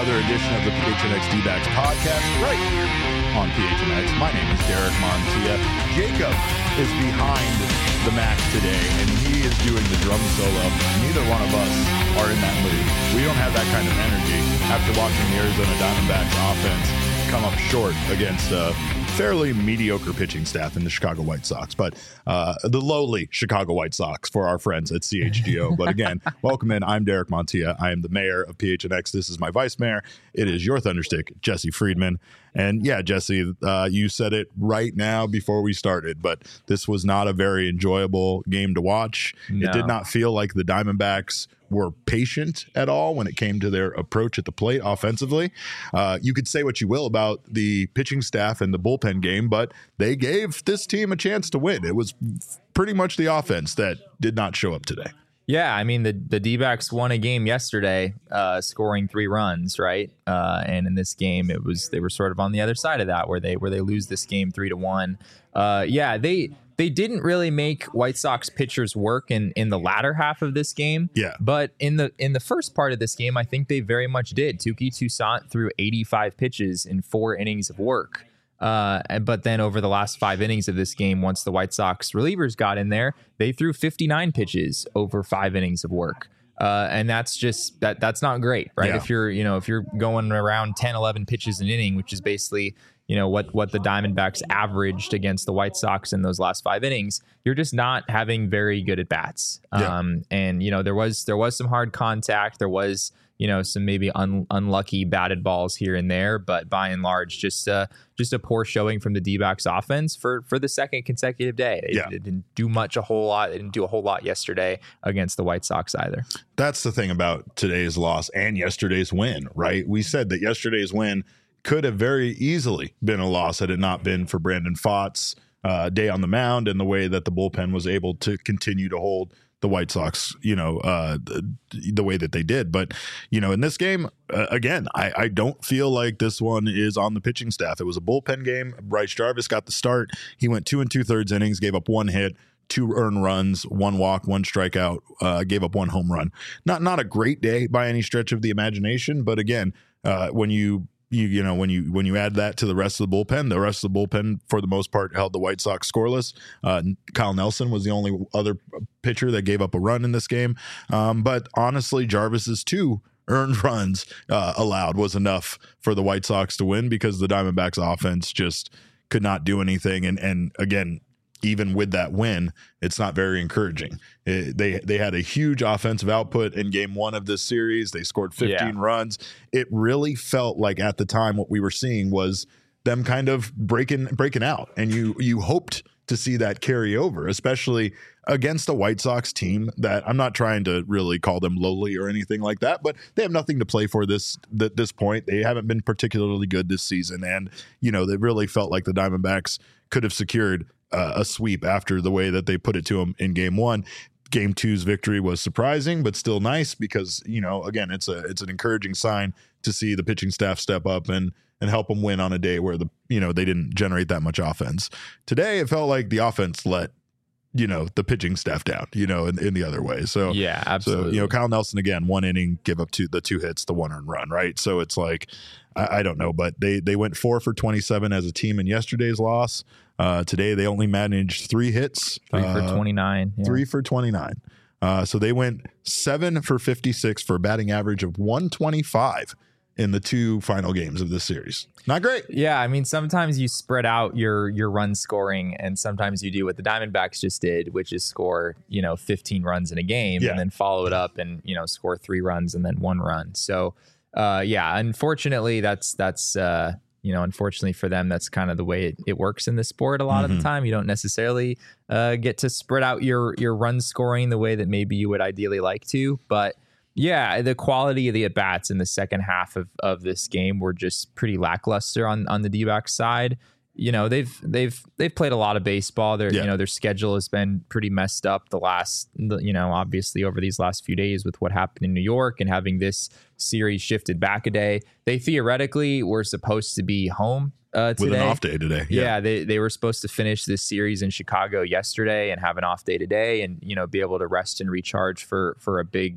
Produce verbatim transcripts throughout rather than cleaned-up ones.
another edition of the P H N X D-Backs podcast right here on P H N X. My name is Derek Montilla. Jacob is behind the Mac today, and he is doing the drum solo. Neither one of us are in that mood. We don't have that kind of energy after watching the Arizona Diamondbacks offense come up short against a fairly mediocre pitching staff in the Chicago White Sox, but uh, the lowly Chicago White Sox for our friends at C H G O. But again, welcome in. I'm Derek Montilla. I am the mayor of P H N X. This is my vice mayor. It is your Thunderstick, Jesse Friedman. And yeah, Jesse, uh, you said it right now before we started, but this was not a very enjoyable game to watch. No. It did not feel like the Diamondbacks were patient at all when it came to their approach at the plate offensively. Uh, you could say what you will about the pitching staff and the bullpen game, but they gave this team a chance to win. It was pretty much the offense that did not show up today. Yeah, I mean, the, the D-backs won a game yesterday, uh, scoring three runs, right? Uh, and in this game, it was they were sort of on the other side of that, where they where they lose this game three to one. Uh, yeah, they they didn't really make White Sox pitchers work in, in the latter half of this game. Yeah, but in the in the first part of this game, I think they very much did. Touki Toussaint threw eighty-five pitches in four innings of work. Uh, but then over the last five innings of this game, once the White Sox relievers got in there, they threw fifty-nine pitches over five innings of work. Uh, and that's just that that's not great, right? Yeah. If you're, you know, if you're going around ten, eleven pitches an inning, which is basically, you know, what, what the Diamondbacks averaged against the White Sox in those last five innings, you're just not having very good at bats. Yeah. Um, and, you know, there was there was some hard contact. There was, you know, some maybe un- unlucky batted balls here and there, but by and large, just uh, just a poor showing from the D-backs offense for for the second consecutive day. It, yeah. it didn't do much, a whole lot. It didn't do a whole lot yesterday against the White Sox either. That's the thing about today's loss and yesterday's win, right? We said that yesterday's win could have very easily been a loss had it not been for Brandon Pfaadt's uh, day on the mound and the way that the bullpen was able to continue to hold the White Sox, you know, uh, the, the way that they did. But, you know, in this game, uh, again, I, I don't feel like this one is on the pitching staff. It was a bullpen game. Bryce Jarvis got the start. He went two and two thirds innings, gave up one hit, two earned runs, one walk, one strikeout, uh, gave up one home run. Not not a great day by any stretch of the imagination. But again, uh, when you You you know when you when you add that to the rest of the bullpen, the rest of the bullpen for the most part held the White Sox scoreless. Uh, Kyle Nelson was the only other pitcher that gave up a run in this game. Um, but honestly, Jarvis's two earned runs uh, allowed was enough for the White Sox to win because the Diamondbacks offense just could not do anything. And and again, even with that win, it's not very encouraging. It, they they had a huge offensive output in game one of this series. They scored fifteen yeah. runs. It really felt like at the time what we were seeing was them kind of breaking breaking out. And you you hoped to see that carry over, especially against a White Sox team that I'm not trying to really call them lowly or anything like that, but they have nothing to play for this at this point. They haven't been particularly good this season. And, you know, they really felt like the Diamondbacks could have secured Uh, a sweep after the way that they put it to them in game one. Game two's victory was surprising, but still nice because, you know, again, it's a it's an encouraging sign to see the pitching staff step up and and help them win on a day where the you know they didn't generate that much offense. Today, it felt like the offense let you know the pitching staff down, you know, in, in the other way. So yeah, absolutely. So, you know, Kyle Nelson again, one inning, give up two the two hits, the one earned run, right? So it's like I, I don't know, but they they went four for twenty-seven as a team in yesterday's loss. Uh, today they only managed three hits, three uh, for twenty-nine, yeah. three for twenty-nine. Uh, so they went seven for fifty-six for a batting average of one twenty-five in the two final games of this series. Not great. Yeah, I mean, sometimes you spread out your your run scoring, and sometimes you do what the Diamondbacks just did, which is score, you know, fifteen runs in a game yeah. and then follow it up and, you know, score three runs and then one run. So, uh, yeah, unfortunately, that's that's uh, you know, unfortunately for them, that's kind of the way it, it works in this sport. A lot mm-hmm. of the time, you don't necessarily uh, get to spread out your your run scoring the way that maybe you would ideally like to, but. Yeah, the quality of the at-bats in the second half of, of this game were just pretty lackluster on, on the D-backs side. You know, they've they've they've played a lot of baseball. Their yeah. you know, their schedule has been pretty messed up the last, you know, obviously over these last few days with what happened in New York and having this series shifted back a day. They theoretically were supposed to be home uh, today. With an off day today. Yeah, yeah they, they were supposed to finish this series in Chicago yesterday and have an off day today and, you know, be able to rest and recharge for for a big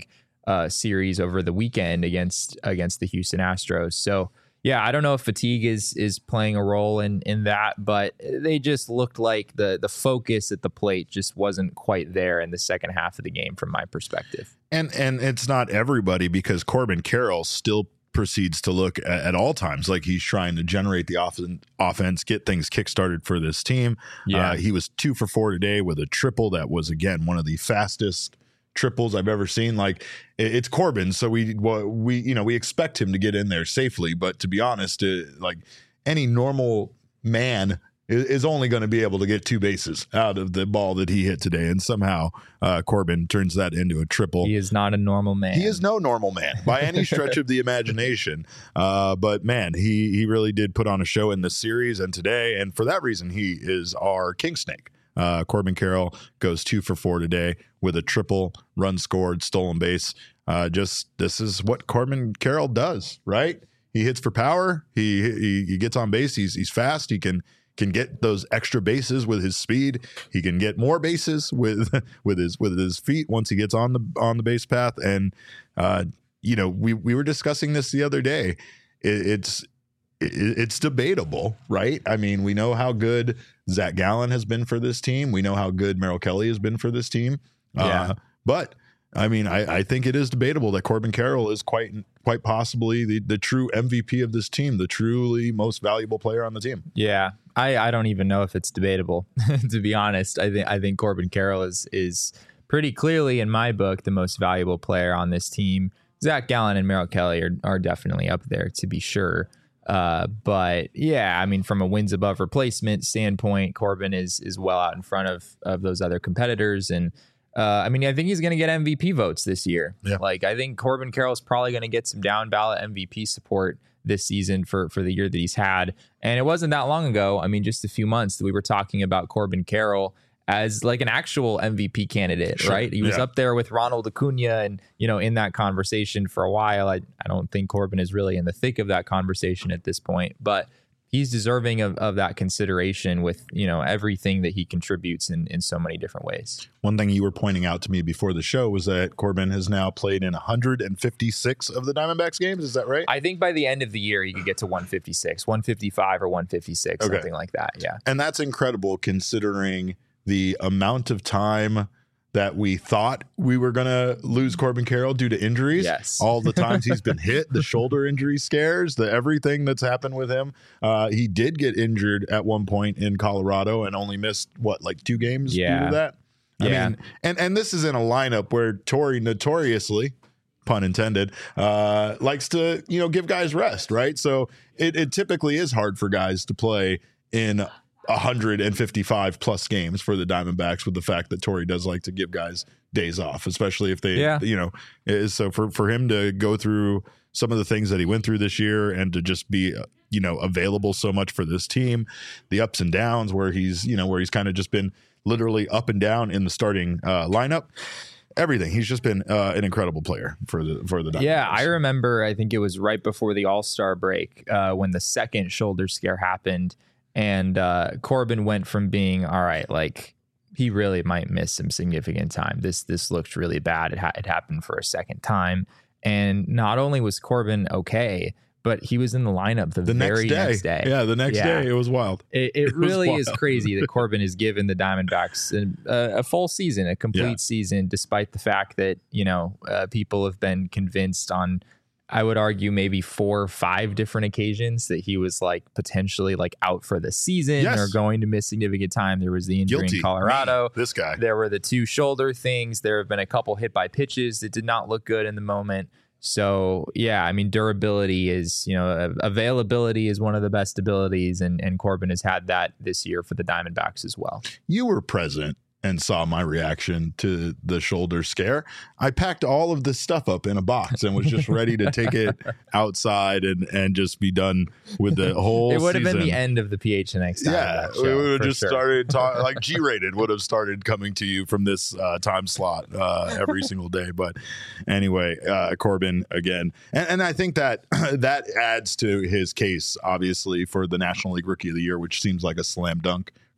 uh, series over the weekend against against the Houston Astros. So yeah, I don't know if fatigue is is playing a role in in that, but they just looked like the the focus at the plate just wasn't quite there in the second half of the game from my perspective. And and it's not everybody, because Corbin Carroll still proceeds to look at, at all times like he's trying to generate the off- offense, get things kickstarted for this team. Yeah. Uh, he was two for four today with a triple that was, again, one of the fastest triples I've ever seen. Like, it's Corbin, so we we you know we expect him to get in there safely. But to be honest, it, like any normal man is only going to be able to get two bases out of the ball that he hit today, and somehow uh, Corbin turns that into a triple. He is not a normal man. He is no normal man by any stretch of the imagination. Uh, but man, he he really did put on a show in this series and today, and for that reason, he is our king snake. Uh, Corbin Carroll goes two for four today with a triple, run scored, stolen base. Uh, just this is what Corbin Carroll does, right? He hits for power. He he, he gets on base. He's he's fast. He can. can get those extra bases with his speed. He can get more bases with with his with his feet once he gets on the on the base path. And uh, you know, we we were discussing this the other day. It, it's it, it's debatable, right? I mean, we know how good Zach Gallen has been for this team. We know how good Merrill Kelly has been for this team. Yeah. Uh, but I mean, I, I think it is debatable that Corbin Carroll is quite quite possibly the, the true M V P of this team, the truly most valuable player on the team. Yeah, I, I don't even know if it's debatable, to be honest. I think I think Corbin Carroll is is pretty clearly, in my book, the most valuable player on this team. Zach Gallen and Merrill Kelly are, are definitely up there, to be sure. Uh, but yeah, I mean, from a wins above replacement standpoint, Corbin is is well out in front of of those other competitors. And Uh, I mean, I think he's going to get M V P votes this year. Yeah. Like, I think Corbin Carroll is probably going to get some down ballot M V P support this season for, for the year that he's had. And it wasn't that long ago. I mean, just a few months that we were talking about Corbin Carroll as like an actual M V P candidate, Sure. right? He was Yeah. up there with Ronald Acuna and, you know, in that conversation for a while. I, I don't think Corbin is really in the thick of that conversation at this point, but he's deserving of, of that consideration with, you know, everything that he contributes in, in so many different ways. One thing you were pointing out to me before the show was that Corbin has now played in one hundred fifty-six of the Diamondbacks games. Is that right? I think by the end of the year, he could get to one fifty-six, one fifty-five or one fifty-six, Okay. something like that. Yeah. And that's incredible considering the amount of time that we thought we were going to lose Corbin Carroll due to injuries. Yes. All the times he's been hit, the shoulder injury scares, the everything that's happened with him. Uh, he did get injured at one point in Colorado and only missed, what, like two games Yeah. due to that? I Yeah. mean, and, and this is in a lineup where Torrey notoriously, pun intended, uh, likes to, you know, give guys rest, right? So it, it typically is hard for guys to play in one hundred fifty-five plus games for the Diamondbacks, with the fact that Torrey does like to give guys days off, especially if they, Yeah. you know, is so for, for him to go through some of the things that he went through this year and to just be, uh, you know, available so much for this team, the ups and downs where he's, you know, where he's kind of just been literally up and down in the starting uh, lineup. Everything. He's just been uh, an incredible player for the for the Diamondbacks. Yeah, I remember, I think it was right before the All-Star break uh, when the second shoulder scare happened. And uh, Corbin went from being, all right, like he really might miss some significant time. This this looked really bad. It, ha- it happened for a second time. And not only was Corbin okay, but he was in the lineup the, the very next day. next day. Yeah, the next Yeah. day. It was wild. It, it, It was really is wild. crazy that Corbin has given the Diamondbacks a, a full season, a complete Yeah. season, despite the fact that, you know, uh, people have been convinced on, I would argue, maybe four or five different occasions that he was like potentially like out for the season Yes. or going to miss significant time. There was the injury Guilty. in Colorado. Me, this guy. There were the two shoulder things. There have been a couple hit by pitches that did not look good in the moment. So, yeah, I mean, durability is, you know, availability is one of the best abilities. And, and Corbin has had that this year for the Diamondbacks as well. You were present and saw my reaction to the shoulder scare. I packed all of this stuff up in a box and was just ready to take it outside and, and just be done with the whole It would have been season. the end of the P H N X time. Yeah, that we show, would have for just sure. started talk, like G-rated would have started coming to you from this uh, time slot uh, every single day. But anyway, uh, Corbin again, and, and I think that that adds to his case, obviously, for the National League Rookie of the Year, which seems like a slam dunk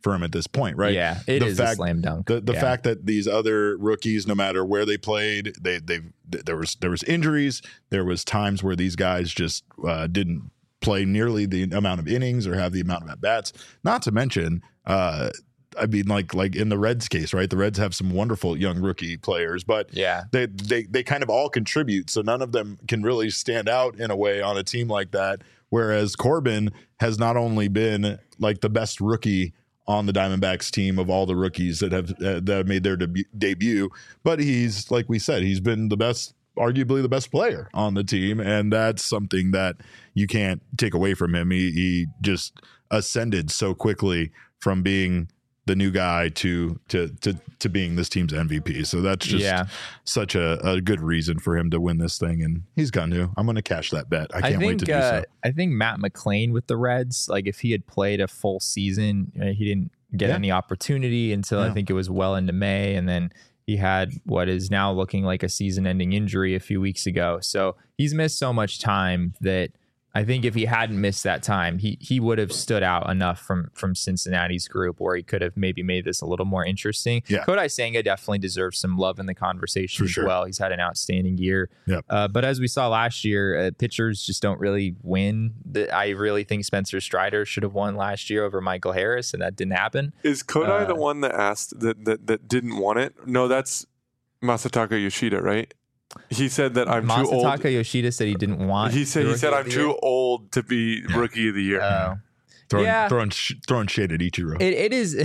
for him at this point, right? Yeah, it the is fact, a slam dunk. The the yeah. fact that these other rookies, no matter where they played, they they there was there was injuries. There was times where these guys just uh, didn't play nearly the amount of innings or have the amount of at bats. Not to mention, uh, I mean, like like in the Reds case, right? The Reds have some wonderful young rookie players, but yeah, they they they kind of all contribute, so none of them can really stand out in a way on a team like that. Whereas Corbin has not only been like the best rookie on the Diamondbacks team of all the rookies that have uh, that have made their debut, debut, but he's, like we said, he's been the best, arguably the best player on the team, and that's something that you can't take away from him. He, he just ascended so quickly from being the new guy to to to to being this team's M V P. So that's just yeah. such a, a good reason for him to win this thing, and he's going to. I'm going to cash that bet. I can't I think, wait to do uh, so. I think Matt McLain with the Reds, like if he had played a full season, uh, he didn't get Yeah. any opportunity until Yeah. I think it was well into May, and then he had what is now looking like a season-ending injury a few weeks ago. So he's missed so much time that I think if he hadn't missed that time, he he would have stood out enough from from Cincinnati's group where he could have maybe made this a little more interesting. Yeah. Kodai Senga definitely deserves some love in the conversation For as sure. well. He's had an outstanding year. Yep. Uh, but as we saw last year, uh, pitchers just don't really win. The, I really think Spencer Strider should have won last year over Michael Harris, and that didn't happen. Is Kodai Uh, the one that asked that, that that didn't want it? No, that's Masataka Yoshida, right? He said that I'm too old. Masataka Yoshida said he didn't want. He said the he said Rookie I'm of the too Year. old to be rookie of the year. Oh. Throwing, yeah. throwing, sh- throwing shade at Ichiro. It, it is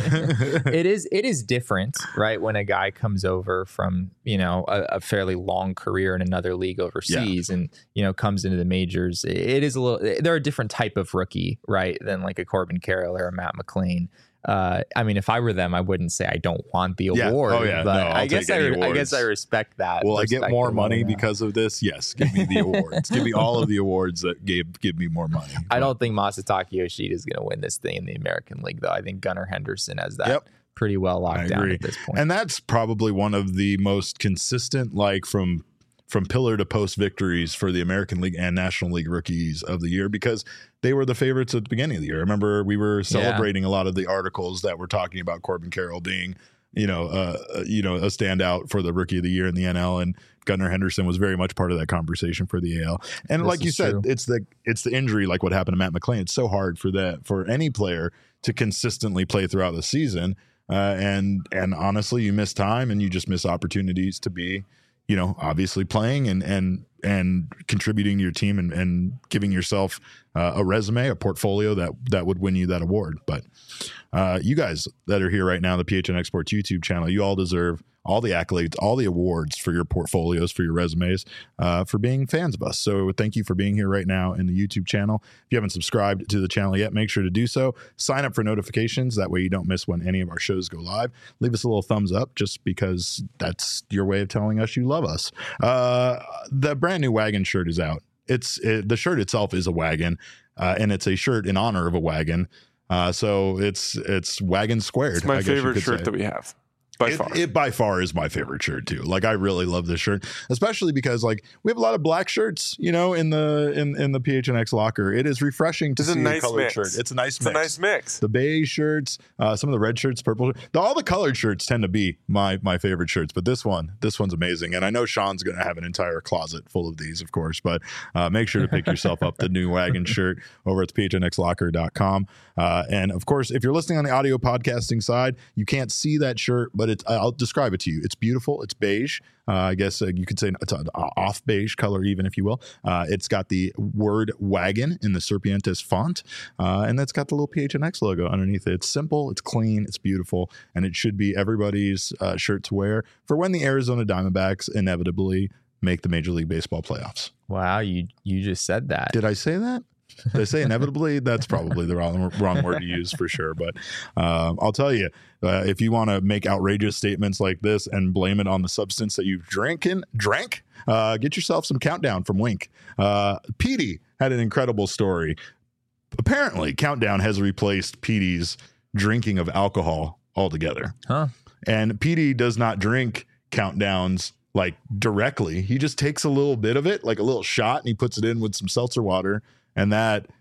it is it is different, right? When a guy comes over from, you know, a, a fairly long career in another league overseas and, you know, comes into the majors, it is a little, they're a different type of rookie, right? Than like a Corbin Carroll or a Matt McLain. Uh, I mean, if I were them, I wouldn't say I don't want the Yeah. award. Oh, yeah. But No, I'll I guess take I, any I guess awards. I respect that. Will I get more perspective money on that. because of this? Yes. Give me the awards. Give me all of the awards that gave give me more money. I don't think Masataka Yoshida is going to win this thing in the American League, though. I think Gunnar Henderson has that Yep. pretty well I locked down agree. at this point. And that's probably one of the most consistent, like from from pillar to post victories for the American League and National League rookies of the year, because they were the favorites at the beginning of the year. I remember we were celebrating a lot of the articles that were talking about Corbin Carroll being, you know, uh, you know, a standout for the rookie of the year in the N L, and Gunnar Henderson was very much part of that conversation for the A L. And This like you is said, true. it's the it's the injury, like what happened to Matt McLain. It's so hard for that for any player to consistently play throughout the season. Uh, and and honestly, you miss time and you just miss opportunities to be, you know, obviously playing and and and contributing to your team and, and giving yourself uh, a resume, a portfolio that that would win you that award. But uh, you guys that are here right now, the P H N Exports YouTube channel, you all deserve all the accolades, all the awards for your portfolios, for your resumes, uh, for being fans of us. So thank you for being here right now in the YouTube channel. If you haven't subscribed to the channel yet, make sure to do so. Sign up for notifications. That way you don't miss when any of our shows go live. Leave us a little thumbs up just because that's your way of telling us you love us. Uh, the brand new wagon shirt is out. It's it, the shirt itself is a wagon, uh, and it's a shirt in honor of a wagon. Uh, so it's it's wagon squared. It's my I guess you favorite could shirt say. that we have. By it, far. it by far is my favorite shirt too. Like I really love this shirt, especially because like we have a lot of black shirts, you know, in the in, in the P H N X locker. It is refreshing to It's a see a, nice colored mix. shirt. It's a nice It's mix. a nice mix. The beige shirts, uh, some of the red shirts, purple. The, all the colored shirts tend to be my my favorite shirts, but this one, this one's amazing. And I know Sean's going to have an entire closet full of these, of course. But uh, make sure to pick yourself up the new wagon shirt over at P H N X locker dot com. Uh, and of course, if you're listening on the audio podcasting side, you can't see that shirt, but it's, I'll describe it to you. It's beautiful. It's beige. Uh, I guess uh, you could say it's an off beige color, even if you will. Uh, it's got the word wagon in the Serpientes font, uh, and that's got the little P H N X logo underneath it. It's simple, it's clean, it's beautiful, and it should be everybody's uh, shirt to wear for when the Arizona Diamondbacks inevitably make the Major League Baseball playoffs. Wow, you you just said that. Did I say that? Did I say inevitably? That's probably the wrong wrong word to use for sure. But um, I'll tell you, uh, if you want to make outrageous statements like this and blame it on the substance that you've drinking, drank, uh, get yourself some Countdown from Wink. Uh, Petey had an incredible story. Apparently, Countdown has replaced Petey's drinking of alcohol altogether. Huh? And Petey does not drink Countdowns like directly. He just takes a little bit of it, like a little shot, and he puts it in with some seltzer water. And that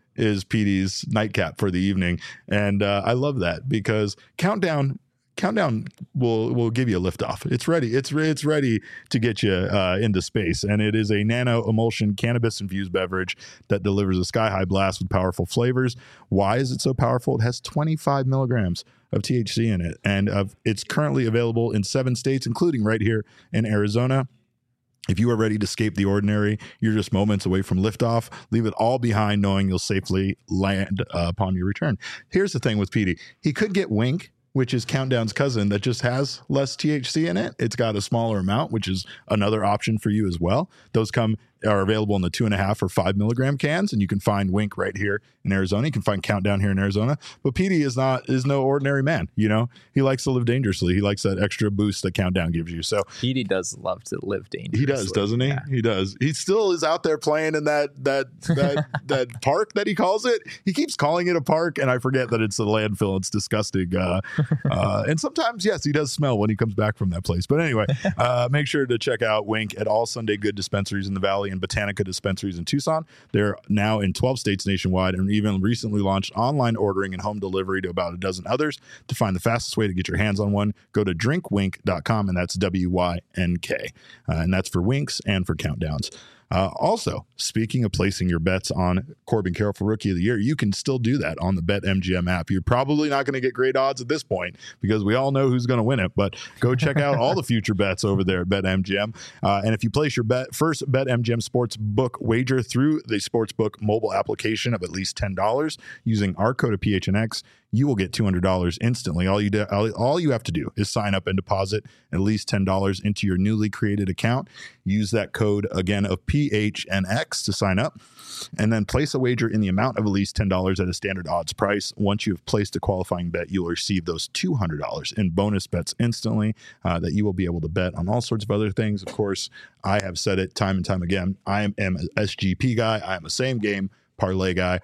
is P D's nightcap for the evening. And uh, I love that because Countdown Countdown will will give you a lift off. It's ready. It's it's ready to get you uh, into space. And it is a nano emulsion cannabis infused beverage that delivers a sky high blast with powerful flavors. Why is it so powerful? It has twenty-five milligrams of T H C in it. And uh, it's currently available in seven states, including right here in Arizona. If you are ready to escape the ordinary, you're just moments away from liftoff. Leave it all behind knowing you'll safely land uh, upon your return. Here's the thing with P D. He could get Wink, which is Countdown's cousin that just has less T H C in it. It's got a smaller amount, which is another option for you as well. Those come are available in the two and a half or five milligram cans, and you can find Wink right here in Arizona. You can find Countdown here in Arizona. But P D is not is no ordinary man. You know, he likes to live dangerously. He likes that extra boost that Countdown gives you. So P D does love to live dangerously. He does, doesn't he? Yeah. He does. He still is out there playing in that that that that park that he calls it. He keeps calling it a park, and I forget that it's a landfill. It's disgusting. Uh, uh, and sometimes, yes, he does smell when he comes back from that place. But anyway, uh, make sure to check out Wink at all Sunday Good dispensaries in the Valley and Botanica dispensaries in Tucson. They're now in twelve states nationwide and even recently launched online ordering and home delivery to about a dozen others. To find the fastest way to get your hands on one, go to drink wink dot com, and that's W Y N K. Uh, and that's for Winks and for Countdowns. Uh, also, speaking of placing your bets on Corbin Carroll for Rookie of the Year, you can still do that on the BetMGM app. You're probably not going to get great odds at this point because we all know who's going to win it, but go check out all the future bets over there at BetMGM. Uh, and if you place your bet first BetMGM Sportsbook wager through the Sportsbook mobile application of at least ten dollars using our code of P H N X, you will get two hundred dollars instantly. All you do, all, all you have to do is sign up and deposit at least ten dollars into your newly created account. Use that code again of P H N X to sign up, and then place a wager in the amount of at least ten dollars at a standard odds price. Once you have placed a qualifying bet, you will receive those two hundred dollars in bonus bets instantly uh, that you will be able to bet on all sorts of other things. Of course, I have said it time and time again. I am an S G P guy. I am a same game parlay guy.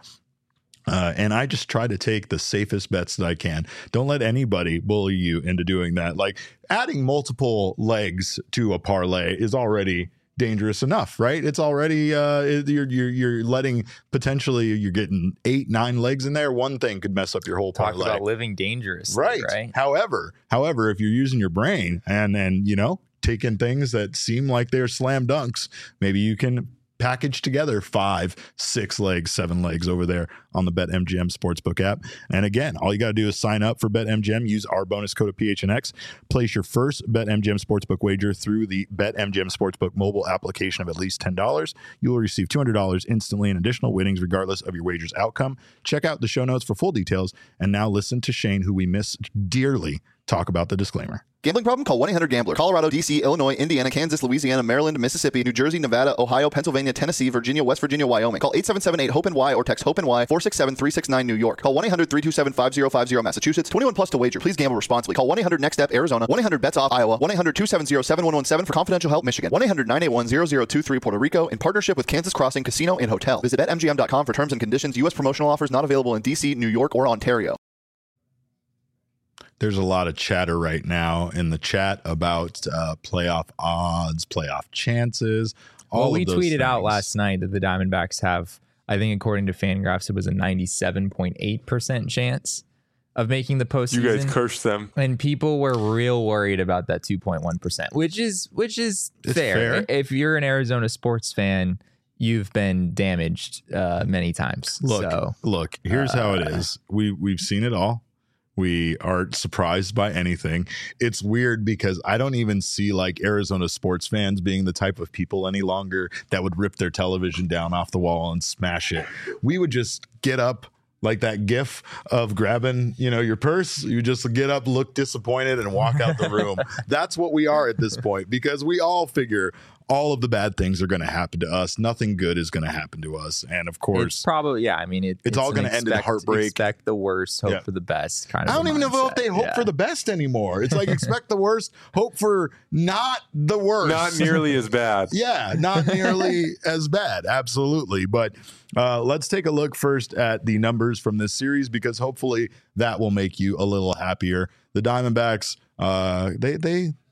Uh, and I just try to take the safest bets that I can. Don't let anybody bully you into doing that. Like adding multiple legs to a parlay is already dangerous enough, right? It's already uh, you're you're you're letting potentially you're getting eight nine legs in there. One thing could mess up your whole Talk parlay. about living dangerously, right? right? However, however, if you're using your brain and then you know taking things that seem like they're slam dunks, maybe you can package together five, six legs, seven legs over there on the BetMGM Sportsbook app. And again, all you got to do is sign up for BetMGM, use our bonus code of P H N X, place your first BetMGM Sportsbook wager through the BetMGM Sportsbook mobile application of at least ten dollars. You will receive two hundred dollars instantly in additional winnings regardless of your wager's outcome. Check out the show notes for full details. And now listen to Shane, who we miss dearly, talk about the disclaimer. Gambling problem? Call one eight hundred gambler. Colorado, D C, Illinois, Indiana, Kansas, Louisiana, Maryland, Mississippi, New Jersey, Nevada, Ohio, Pennsylvania, Tennessee, Virginia, West Virginia, Wyoming. Call eight seven seven eight hope N Y or text hope N Y four six seven three six nine New York. Call one eight hundred three two seven five zero five zero Massachusetts. twenty-one plus to wager. Please gamble responsibly. Call one eight hundred next step Arizona. one eight hundred bets off Iowa. one eight hundred two seven zero seven one one seven for confidential help Michigan. one eight hundred nine eight one zero zero two three Puerto Rico in partnership with Kansas Crossing Casino and Hotel. Visit bet M G M dot com for terms and conditions. U S promotional offers not available in D C, New York, or Ontario. There's a lot of chatter right now in the chat about uh, playoff odds, playoff chances. All well, of we those tweeted out things. last night that the Diamondbacks have, I think, according to Fangraphs, it was a ninety-seven point eight percent chance of making the postseason. You guys cursed them, and people were real worried about that two point one percent, which is which is fair. fair. If you're an Arizona sports fan, you've been damaged uh, many times. Look, so, look. Here's uh, how it is. We we've seen it all. We aren't surprised by anything. It's weird because I don't even see like Arizona sports fans being the type of people any longer that would rip their television down off the wall and smash it. We would just get up like that gif of grabbing, you know, your purse. You just get up, look disappointed, and walk out the room. That's what we are at this point because we all figure all of the bad things are going to happen to us. Nothing good is going to happen to us. And of course, it's probably, yeah, I mean, it, it's, it's all going to end in heartbreak. Expect the worst, hope Yeah. for the best kind of I don't even know if they hope yeah. for the best anymore. It's like expect the worst, hope for not the worst. not nearly as bad. Yeah, not nearly as bad. Absolutely. But uh, let's take a look first at the numbers from this series because hopefully that will make you a little happier. The Diamondbacks, uh, they they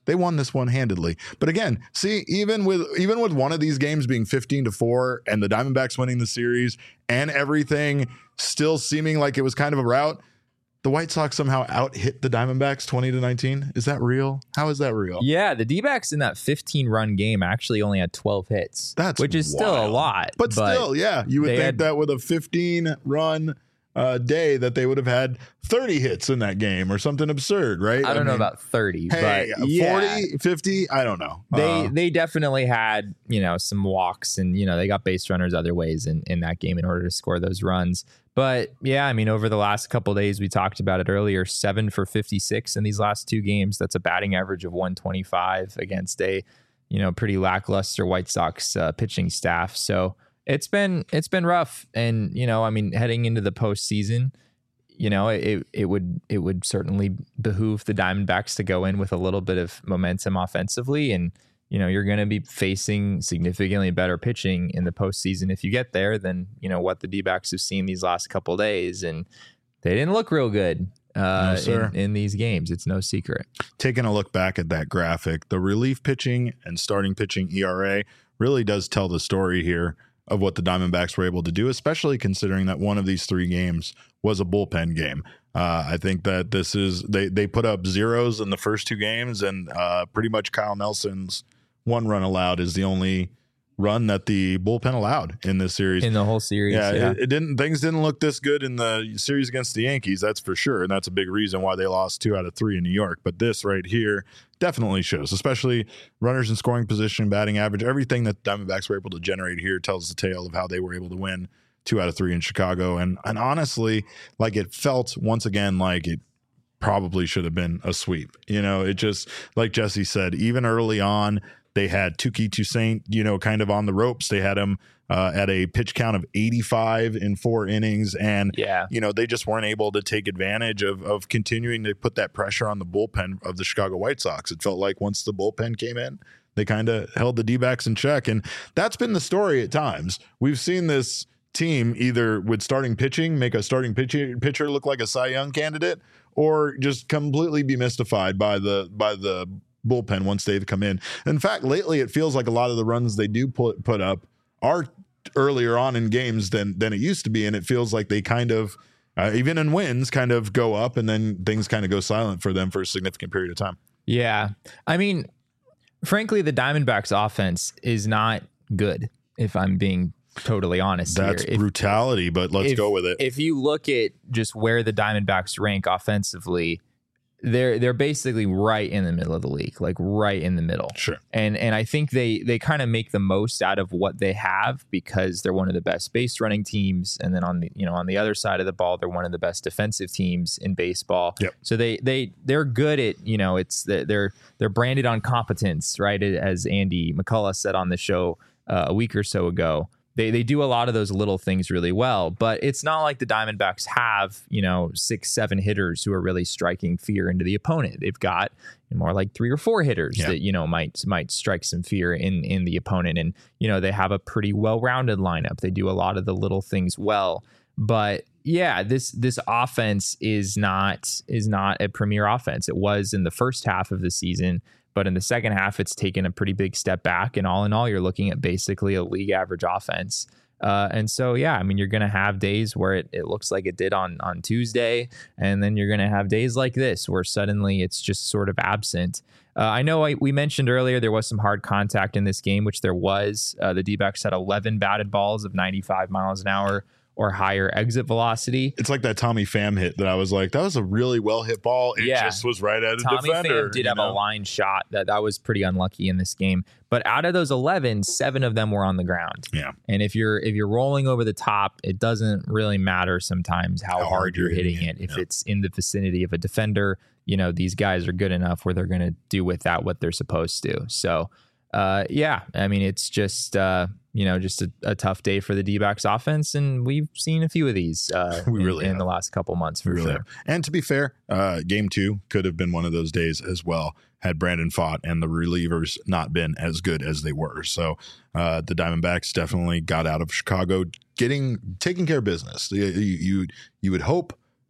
they won this one handedly. But again, see, even with even with one of these games being fifteen to four and the Diamondbacks winning the series and everything still seeming like it was kind of a rout, the White Sox somehow out hit the Diamondbacks twenty to nineteen. Is that real? How is that real? Yeah, the D-backs in that fifteen run game actually only had twelve hits. That's which is wild. Still a lot. But, but still, yeah, you would think had, that with a fifteen run uh, day that they would have had thirty hits in that game or something absurd, right? I don't I mean, know about thirty, hey, but yeah. forty, fifty, I don't know. They uh, they definitely had, you know, some walks and, you know, they got base runners other ways in, in that game in order to score those runs. But yeah, I mean, over the last couple of days, we talked about it earlier, seven for fifty-six in these last two games. That's a batting average of one twenty-five against a, you know, pretty lackluster White Sox uh, pitching staff. So it's been it's been rough. And, you know, I mean, heading into the postseason, you know, it it would it would certainly behoove the Diamondbacks to go in with a little bit of momentum offensively. And, you know, you're going to be facing significantly better pitching in the postseason if you get there than, you know, what the D-backs have seen these last couple of days. And they didn't look real good uh, no, in, in these games. It's no secret. Taking a look back at that graphic, the relief pitching and starting pitching E R A really does tell the story here of what the Diamondbacks were able to do, especially considering that one of these three games was a bullpen game. Uh, I think that this is they they put up zeros in the first two games, and uh, pretty much Kyle Nelson's one run allowed is the only run that the bullpen allowed in this series. In the whole series, yeah, yeah. It, it didn't. Things didn't look this good in the series against the Yankees, that's for sure, and that's a big reason why they lost two out of three in New York. But this right here definitely shows, especially runners in scoring position, batting average, everything that the Diamondbacks were able to generate here tells the tale of how they were able to win two out of three in Chicago. And and honestly, like it felt once again like it probably should have been a sweep. You know, it just, like Jesse said, even early on, they had Touki Toussaint, you know, kind of on the ropes. They had him uh, at a pitch count of eighty-five in four innings. And, yeah. you know, they just weren't able to take advantage of, of continuing to put that pressure on the bullpen of the Chicago White Sox. It felt like once the bullpen came in, they kind of held the D-backs in check. And that's been the story at times. We've seen this team either with starting pitching make a starting pitcher, pitcher look like a Cy Young candidate, or just completely be mystified by the by the bullpen once they've come in. In fact, lately it feels like a lot of the runs they do put put up are earlier on in games than than it used to be, and it feels like they kind of uh, even in wins kind of go up and then things kind of go silent for them for a significant period of time. Yeah, I mean, frankly, the Diamondbacks offense is not good, if I'm being totally honest. That's here. brutality, if, but let's if, go with it. If you look at just where the Diamondbacks rank offensively, they're they're basically right in the middle of the league, like right in the middle. Sure. And and I think they they kind of make the most out of what they have because they're one of the best base running teams, and then on the you know on the other side of the ball, they're one of the best defensive teams in baseball. Yep. So they they they're good at you know it's they're they're branded on competence, right? As Andy McCullough said on the show uh, a week or so ago. They they do a lot of those little things really well, but it's not like the Diamondbacks have, you know, six, seven hitters who are really striking fear into the opponent. They've got more like three or four hitters yeah. that, you know, might might strike some fear in, in the opponent. And, you know, they have a pretty well-rounded lineup. They do a lot of the little things well. But yeah, this this offense is not is not a premier offense. It was in the first half of the season. But in the second half, it's taken a pretty big step back. And all in all, you're looking at basically a league average offense. Uh, and so, yeah, I mean, you're going to have days where it, it looks like it did on, on Tuesday. And then you're going to have days like this where suddenly it's just sort of absent. Uh, I know I, we mentioned earlier there was some hard contact in this game, which there was. Uh, the D-backs had eleven batted balls of ninety-five miles an hour or higher exit velocity. It's like that Tommy Pham hit that I was like, that was a really well hit ball. It yeah. just was right at a Tommy defender. Pham did you have know? a line shot that that was pretty unlucky in this game. But out of those eleven, seven of them were on the ground. Yeah. And if you're if you're rolling over the top, it doesn't really matter sometimes how, how hard, hard you're hitting, hitting it. it. If yeah. it's in the vicinity of a defender, you know, these guys are good enough where they're going to do with that what they're supposed to. So, uh, yeah, I mean, it's just, uh, you know, just a, a tough day for the D-backs offense. And we've seen a few of these uh, we really in, in have. the last couple months for we really sure. Have. And to be fair, uh, game two could have been one of those days as well had Brandon Pfaadt and the relievers not been as good as they were. So uh, the Diamondbacks definitely got out of Chicago getting taking care of business. You, you, you would hope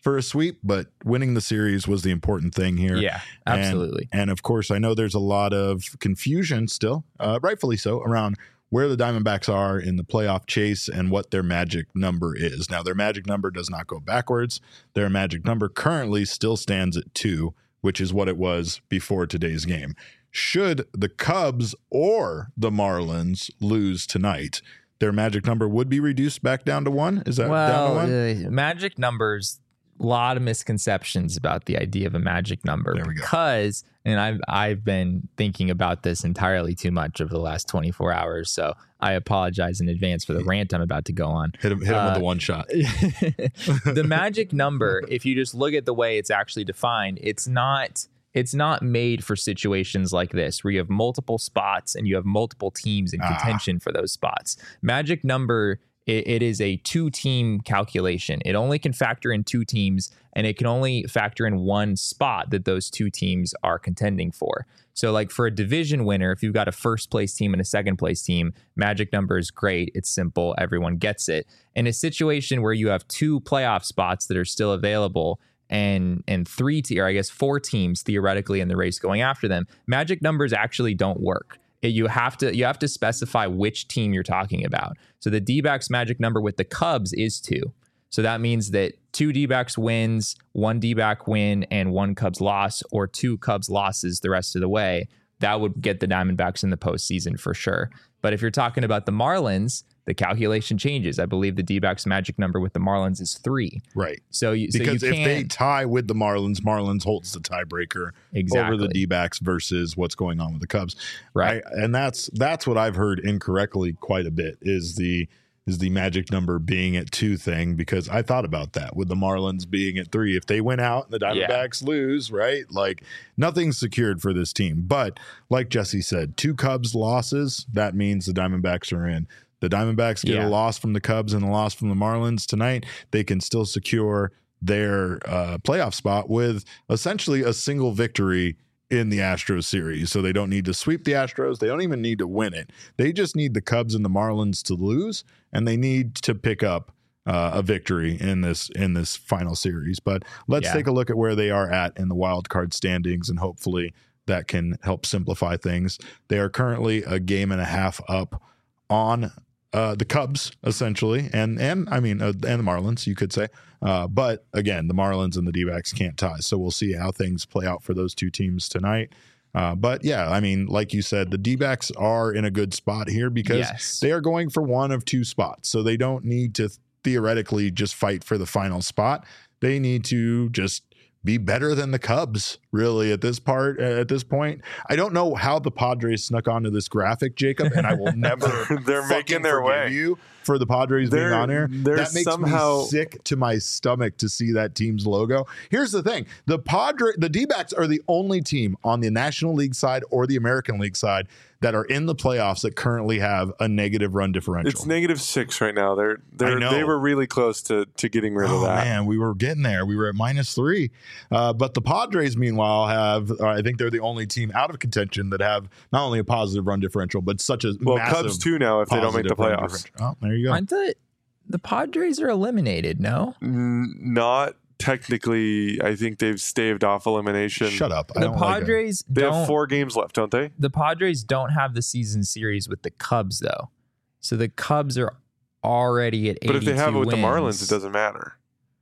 for a sweep, but winning the series was the important thing here. Yeah, And- absolutely. And, of course, I know there's a lot of confusion still, uh, rightfully so, around where the Diamondbacks are in the playoff chase and what their magic number is. Now, their magic number does not go backwards. Their magic number currently still stands at two, which is what it was before today's game. Should the Cubs or the Marlins lose tonight, their magic number would be reduced back down to one? Is that down to Well, one? uh, magic numbers, a lot of misconceptions about the idea of a magic number. There we go. Because, and I've I've been thinking about this entirely too much over the last twenty-four hours, so I apologize in advance for the rant I'm about to go on. Hit him, hit him uh, with the one shot. The magic number, if you just look at the way it's actually defined, it's not it's not made for situations like this where you have multiple spots and you have multiple teams in Ah. contention for those spots. Magic number, it, it is a two-team calculation. It only can factor in two teams, and it can only factor in one spot that those two teams are contending for. So like for a division winner, if you've got a first place team and a second place team, magic number is great. It's simple. Everyone gets it. In a situation where you have two playoff spots that are still available and and three te- or I guess four teams theoretically in the race going after them, magic numbers actually don't work. It- you have to you have to specify which team you're talking about. So the D-backs magic number with the Cubs is two. So that means that two D-backs wins, one D-back win, and one Cubs loss, or two Cubs losses the rest of the way. That would get the Diamondbacks in the postseason for sure. But if you're talking about the Marlins, the calculation changes. I believe the D-backs magic number with the Marlins is three. Right. So you so Because you if they can't- tie with the Marlins, Marlins holds the tiebreaker Exactly. over the D-backs versus what's going on with the Cubs. Right. I- and that's that's what I've heard incorrectly quite a bit is the is the magic number being at two thing, because I thought about that with the Marlins being at three. If they win out and the Yeah. Diamondbacks lose, right? Like nothing's secured for this team. But like Jesse said, two Cubs losses, that means the Diamondbacks are in. The Diamondbacks get Yeah. a loss from the Cubs and a loss from the Marlins tonight. They can still secure their uh, playoff spot with essentially a single victory in the Astros series. So they don't need to sweep the Astros. They don't even need to win it. They just need the Cubs and the Marlins to lose, and they need to pick up uh, a victory in this in this final series. But let's Yeah. take a look at where they are at in the wild card standings, and hopefully that can help simplify things. They are currently a game and a half up on uh, the Cubs, essentially, and and I mean, uh, and the Marlins, you could say. Uh, but again, the Marlins and the D-backs can't tie, so we'll see how things play out for those two teams tonight. Uh, but yeah, I mean, like you said, the D-backs are in a good spot here because Yes. they are going for one of two spots, so they don't need to theoretically just fight for the final spot. They need to just be better than the Cubs, really, at this part. Uh, at this point, I don't know how the Padres snuck onto this graphic, Jacob, and I will never. They're fucking making their forgive way. you for the Padres being They're- on here. they're That makes somehow- me sick to my stomach to see that team's logo. Here's the thing: the Padre, the D-backs are the only team on the National League side or the American League side that are in the playoffs that currently have a negative run differential. It's negative six right now. They're they're know. they were really close to to getting rid of Oh that. man, we were getting there. We were at minus three, uh, but the Padres, meanwhile, have uh, I think they're the only team out of contention that have not only a positive run differential, but such a Well, massive Cubs too now if they don't make the positive run playoffs. differential. Oh, there you go. Aren't the the Padres are eliminated? No, N- Not technically. I think they've staved off elimination. Shut up. I the don't like it. Padres They don't. have four games left, don't they? The Padres don't have the season series with the Cubs though, so the Cubs are already at eighty-two But if they have it with wins. the Marlins, it doesn't matter.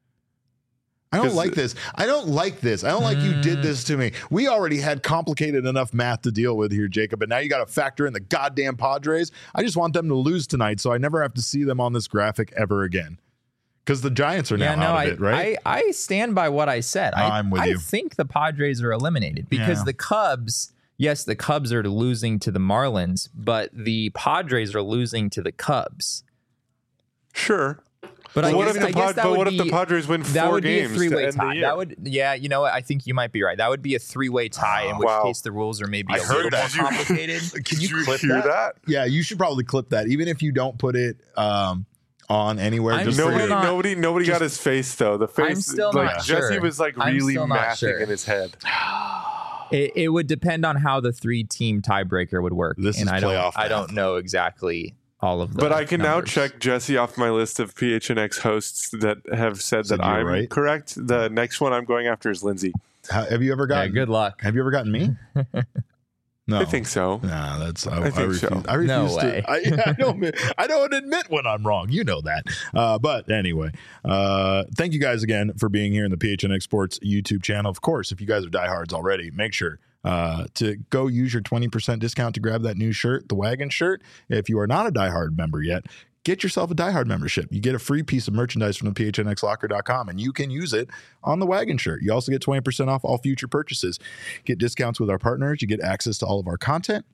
I don't 'Cause- like this. I don't like this. I don't like you did Mm. this to me. We already had complicated enough math to deal with here, Jacob, and now you got to factor in the goddamn Padres. I just want them to lose tonight so I never have to see them on this graphic ever again. Because the Giants are now Yeah, no, out I, of it, right? I I stand by what I said. I, I'm with I you. think the Padres are eliminated because Yeah. the Cubs. Yes, the Cubs are losing to the Marlins, but the Padres are losing to the Cubs. Sure. But, But I what guess, if the I guess Pad- that but would what if the be- Padres win that four would be a games to three-way end the tie. year? That would, yeah, you know what? I think you might be right. That would be a three-way tie, in which Wow. case the rules are maybe I a heard little that. more complicated. Can Did you you clip hear that? that? Yeah, you should probably clip that, even if you don't put it um, on anywhere. I'm just still for Nobody, your- not- nobody, nobody got his face though. The face, still like not Jesse sure. was like I'm really still not mathing sure. in his head. It, it would depend on how the three-team tiebreaker would work, This and is I playoff don't, I math. don't know exactly all of the But I can numbers. now check Jesse off my list of P H N X hosts that have said, Said that you're I'm right. correct. The next one I'm going after is Lindsay. How, have you ever Yeah, gotten? good luck. Have you ever gotten me? No, I think so. Nah, that's I, I think I refuse. so. I refuse No to. way. I, I don't. I don't admit when I'm wrong. You know that. Uh, but anyway, uh, thank you guys again for being here in the P H N X Sports YouTube channel. Of course, if you guys are diehards already, make sure uh, to go use your twenty percent discount to grab that new shirt, the Wagon shirt. If you are not a diehard member yet, get yourself a diehard membership. You get a free piece of merchandise from the P H N X locker dot com, and you can use it on the Wagon shirt. You also get twenty percent off all future purchases. Get discounts with our partners. You get access to all of our content.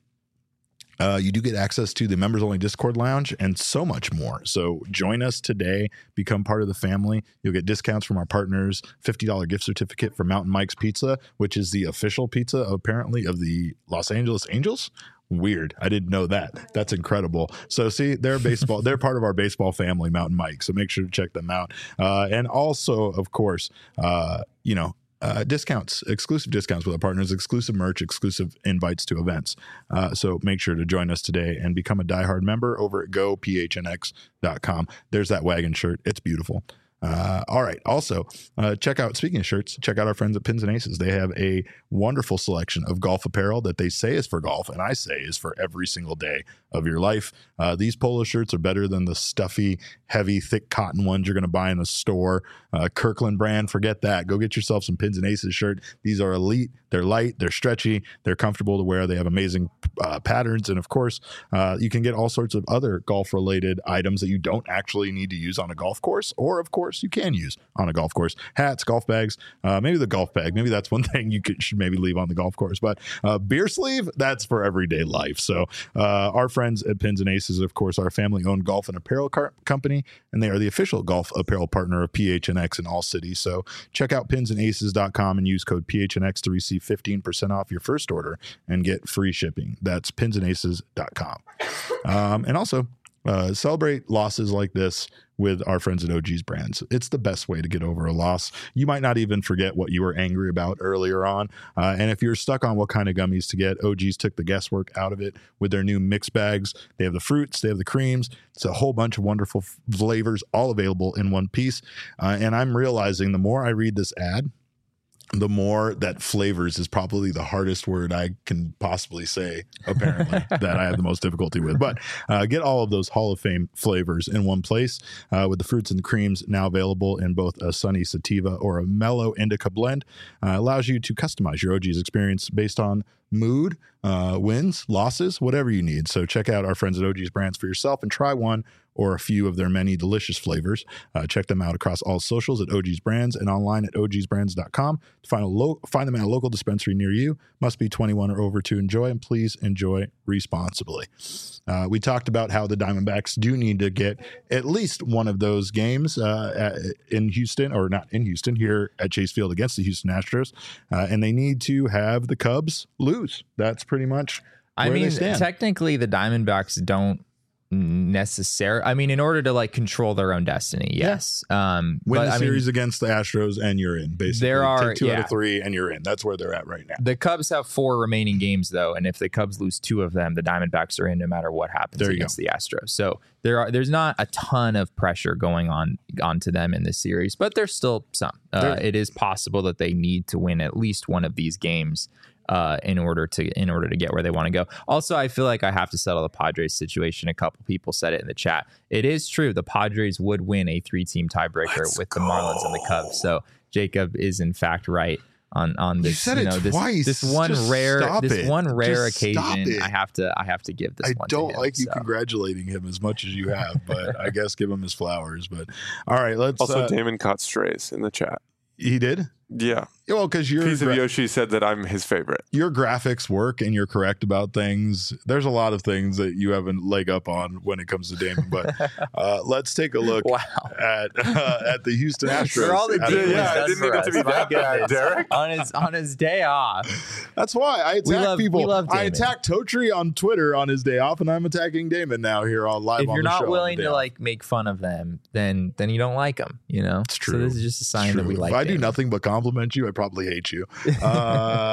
Uh, you do get access to the members only Discord lounge and so much more. So join us today, become part of the family. You'll get discounts from our partners, fifty dollars gift certificate for Mountain Mike's Pizza, which is the official pizza apparently of the Los Angeles Angels. Weird. I didn't know that. That's incredible. So see, they're baseball. They're part of our baseball family, Mountain Mike. So make sure to check them out. Uh, and also, of course, uh, you know, Uh, discounts, exclusive discounts with our partners, exclusive merch, exclusive invites to events. Uh, so make sure to join us today and become a diehard member over at go P H N X dot com. There's that Wagon shirt. It's beautiful. Uh, all right. Also, uh, check out, speaking of shirts, check out our friends at Pins and Aces. They have a wonderful selection of golf apparel that they say is for golf, and I say is for every single day of your life. Uh, these polo shirts are better than the stuffy, heavy, thick cotton ones you're going to buy in the store. Uh, Kirkland brand, forget that. Go get yourself some Pins and Aces shirt. These are elite. They're light. They're stretchy. They're comfortable to wear. They have amazing uh, patterns. And of course, uh, you can get all sorts of other golf-related items that you don't actually need to use on a golf course, or of course, you can use on a golf course. Hats, golf bags, uh, maybe the golf bag. Maybe that's one thing you could, should maybe leave on the golf course. But uh, beer sleeve, that's for everyday life. So uh, our friends at Pins and Aces, of course, are a family-owned golf and apparel car- company, and they are the official golf apparel partner of P H N X in all cities. So check out pins and aces dot com and use code P H N X to receive fifteen percent off your first order and get free shipping. That's pins and aces dot com. Um, and also, uh, celebrate losses like this with our friends at O G's Brands. It's the best way to get over a loss. You might not even forget what you were angry about earlier on. Uh, and if you're stuck on what kind of gummies to get, O G's took the guesswork out of it with their new mix bags. They have the fruits, they have the creams. It's a whole bunch of wonderful flavors, all available in one piece. Uh, and I'm realizing the more I read this ad, the more that flavors is probably the hardest word I can possibly say, apparently, that I have the most difficulty with. But uh, get all of those Hall of Fame flavors in one place uh, with the fruits and the creams now available in both a sunny sativa or a mellow indica blend. Uh, allows you to customize your O G's experience based on mood, uh, wins, losses, whatever you need. So check out our friends at O G's Brands for yourself and try one or a few of their many delicious flavors. Uh, check them out across all socials at O G's Brands and online at O Gs brands dot com. To find, a lo- find them at a local dispensary near you. Must be twenty-one or over to enjoy, and please enjoy responsibly. Uh, we talked about how the Diamondbacks do need to get at least one of those games uh, at, in Houston, or not in Houston, here at Chase Field against the Houston Astros. Uh, and they need to have the Cubs lose. That's pretty much I where mean, they stand. technically, the Diamondbacks don't necessarily. I mean, in order to like control their own destiny, yes. Um, Win but, the I series mean, against the Astros, and you're in. Basically, There are- take two out yeah. of three, and you're in. That's where they're at right now. the Cubs have four remaining games, though, and if the Cubs lose two of them, the Diamondbacks are in no matter what happens There you against the Astros. So there are there's not a ton of pressure going on onto them in this series, but there's still some. Uh, There- it is possible that they need to win at least one of these games uh, in order to in order to get where they want to go. Also, I feel like I have to settle the Padres situation. A couple people said it in the chat. It is true. The Padres would win a three-team tiebreaker Let's with the Marlins and the Cubs. So Jacob is in fact right on on this. You said it know, this, twice. This one Just rare stop this it. one rare Just stop occasion. it. I have to I have to give this I one to don't him, like you so. congratulating him as much as you have, but I guess give him his flowers. But all right, let's. Also, uh, Damon caught strays in the chat. he did. Yeah. Yeah, well, because your Piece of gra- Yoshi said that I'm his favorite. your graphics work and you're correct about things. There's a lot of things that you have a leg up on when it comes to Damon. But uh, let's take a look Wow. at uh, at the Houston Astros. For all the At Damon Yeah, I does didn't for need it us, to be my that bad, goodness. Derek. on his on his day off. That's why I attack We love- people. we love I Damon. attack Totri on Twitter on his day off, and I'm attacking Damon now here on live. If on you're the show not on willing the day to off. like make fun of them, then then you don't like them. You know, It's true. So this is just a sign It's that we true. like. If I do Damon. nothing but compliment you, I probably hate you. Uh,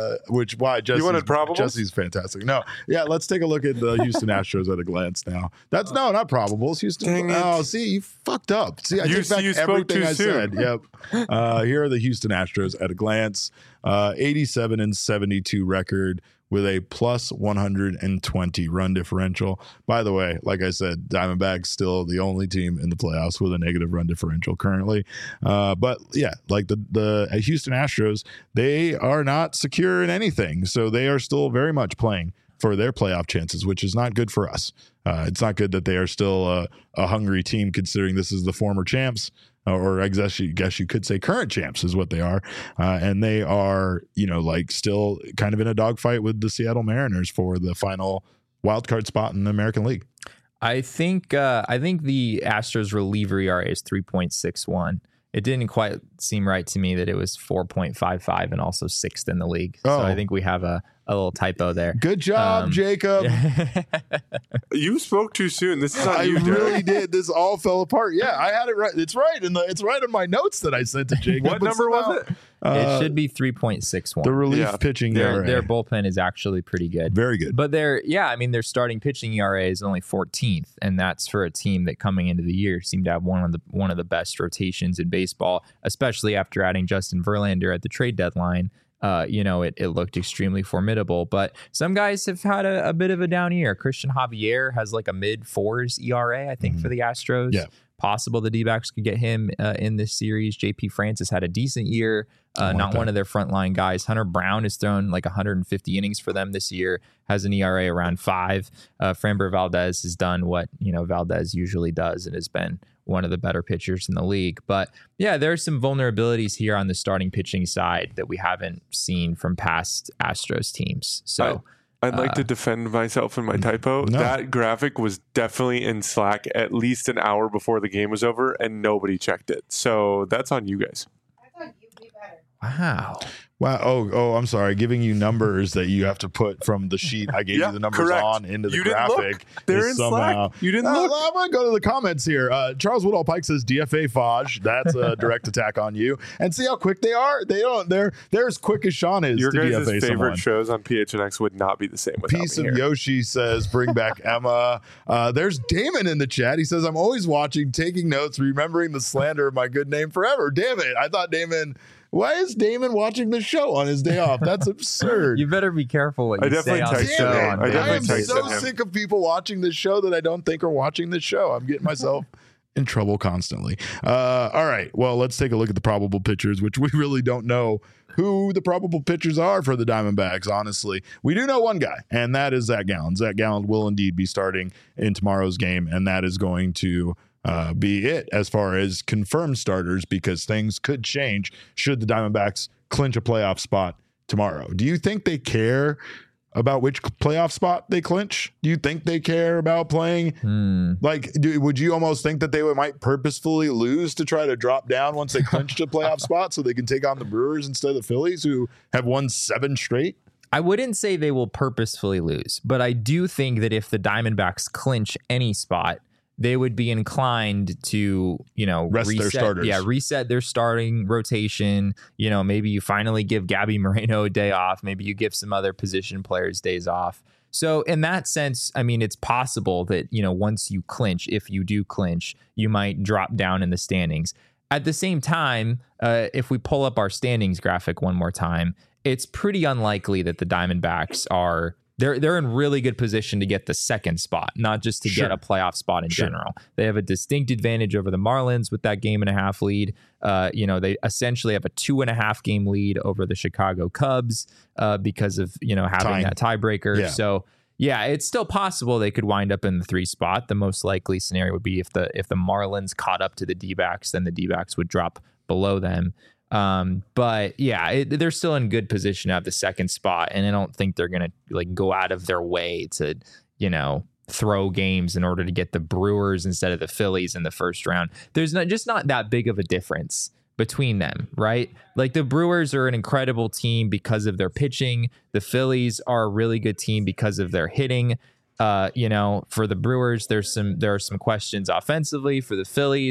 uh, which why Jesse's, wanted probables? Jesse's fantastic. No, yeah, let's take a look at the Houston Astros at a glance now. That's no, not probables. Houston. Dang it. Oh, see, you fucked up. See, I You- take back you spoke everything too I soon. said. Yep. Uh, here are the Houston Astros at a glance. Uh, eighty-seven and seventy-two record with a plus one hundred twenty run differential. By the way, like I said, Diamondbacks still the only team in the playoffs with a negative run differential currently. Uh, but yeah, like the the uh, Houston Astros, they are not secure in anything, so they are still very much playing for their playoff chances, which is not good for us. Uh, it's not good that they are still a, a hungry team, considering this is the former champs. Or I guess you guess you could say current champs is what they are, uh, and they are, you know, like still kind of in a dogfight with the Seattle Mariners for the final wild card spot in the American League. I think uh, I think the Astros reliever E R A is three point six one. It didn't quite seem right to me that it was four point five five and also sixth in the league. Oh. So I think we have a, a little typo there. Good job, Um, Jacob. You spoke too soon. This is on I you, Derek. really did. This all fell apart. Yeah, I had it right. It's right in the. It's right in my notes that I sent to Jacob. What but number was somehow, it? uh, It should be three point six one. the relief Yeah. pitching E Their, R A. their bullpen is actually pretty good. Very good. But their, yeah, I mean, their starting pitching E R A is only fourteenth, and that's for a team that coming into the year seemed to have one of the one of the best rotations in baseball, especially after adding Justin Verlander at the trade deadline. Uh, you know, it, it looked extremely formidable. But some guys have had a, a bit of a down year. Christian Javier has like a mid fours E R A, I think, Mhm. for the Astros. Yeah. Possible the D-backs could get him uh, in this series. J P Francis had a decent year. I Uh, like not that. one of their frontline guys. Hunter Brown has thrown like one hundred fifty innings for them this year, has an E R A around five. Uh, Framber Valdez has done what, you know, Valdez usually does and has been one of the better pitchers in the league. But yeah, there are some vulnerabilities here on the starting pitching side that we haven't seen from past Astros teams. So I'd like Uh, to defend myself in my typo. No. That graphic was definitely in Slack at least an hour before the game was over, and nobody checked it. So that's on you guys. wow. Wow. Oh, oh, I'm sorry. Giving you numbers that you have to put from the sheet I gave Yeah, you the numbers correct. on into the You didn't look. graphic. They're is in somehow- Slack. You didn't Uh, look. I'm going to go to the comments here. Uh, Charles Woodall Pike says D F A Faj. That's a direct attack on you. And see how quick they are. They don't. They're they're as quick as Sean is Your to guys' D F A favorite someone. shows on P H N X would not be the same without Piece me of here. Yoshi says, bring back Emma. Uh, there's Damon in the chat. He says, I'm always watching, taking notes, remembering the slander of my good name forever. Damn it. I thought Damon, why is Damon watching the show on his day off? That's absurd. You better be careful what I you say definitely on the texted show. Damn it. on I I, definitely am Wednesday. texted so him. sick of people watching this show that I don't think are watching this show. I'm getting myself in trouble constantly. Uh, all right. Well, let's take a look at the probable pitchers, which we really don't know who the probable pitchers are for the Diamondbacks, honestly. We do know one guy, and that is Zach Gallen. Zach Gallen will indeed be starting in tomorrow's game, and that is going to uh, be it as far as confirmed starters, because things could change should the Diamondbacks clinch a playoff spot tomorrow. Do you think they care about which playoff spot they clinch? Do you think they care about playing? Hmm. Like, do, would you almost think that they would, might purposefully lose to try to drop down once they clinched a playoff spot so they can take on the Brewers instead of the Phillies, who have won seven straight? I wouldn't say they will purposefully lose, but I do think that if the Diamondbacks clinch any spot, they would be inclined to, you know, Rest their reset, starters. Yeah, reset their starting rotation. You know, maybe you finally give Gabby Moreno a day off. Maybe you give some other position players days off. So in that sense, I mean, it's possible that, you know, once you clinch, if you do clinch, you might drop down in the standings. At the same time, uh, if we pull up our standings graphic one more time, it's pretty unlikely that the Diamondbacks are they're they're in really good position to get the second spot, not just to Sure. get a playoff spot in Sure. general. They have a distinct advantage over the Marlins with that game and a half lead. Uh, you know, they essentially have a two and a half game lead over the Chicago Cubs uh, because of, you know, having Tying. that tiebreaker. Yeah. So yeah, it's still possible they could wind up in the three spot. The most likely scenario would be if the if the Marlins caught up to the D-backs, then the D-backs would drop below them. Um, but yeah, it, they're still in good position to have the second spot, and I don't think they're gonna like go out of their way to, you know, throw games in order to get the Brewers instead of the Phillies in the first round. There's not just not that big of a difference between them, right? Like the Brewers are an incredible team because of their pitching. The Phillies are a really good team because of their hitting. Uh, you know, for the Brewers, there's some there are some questions offensively. For the Phillies,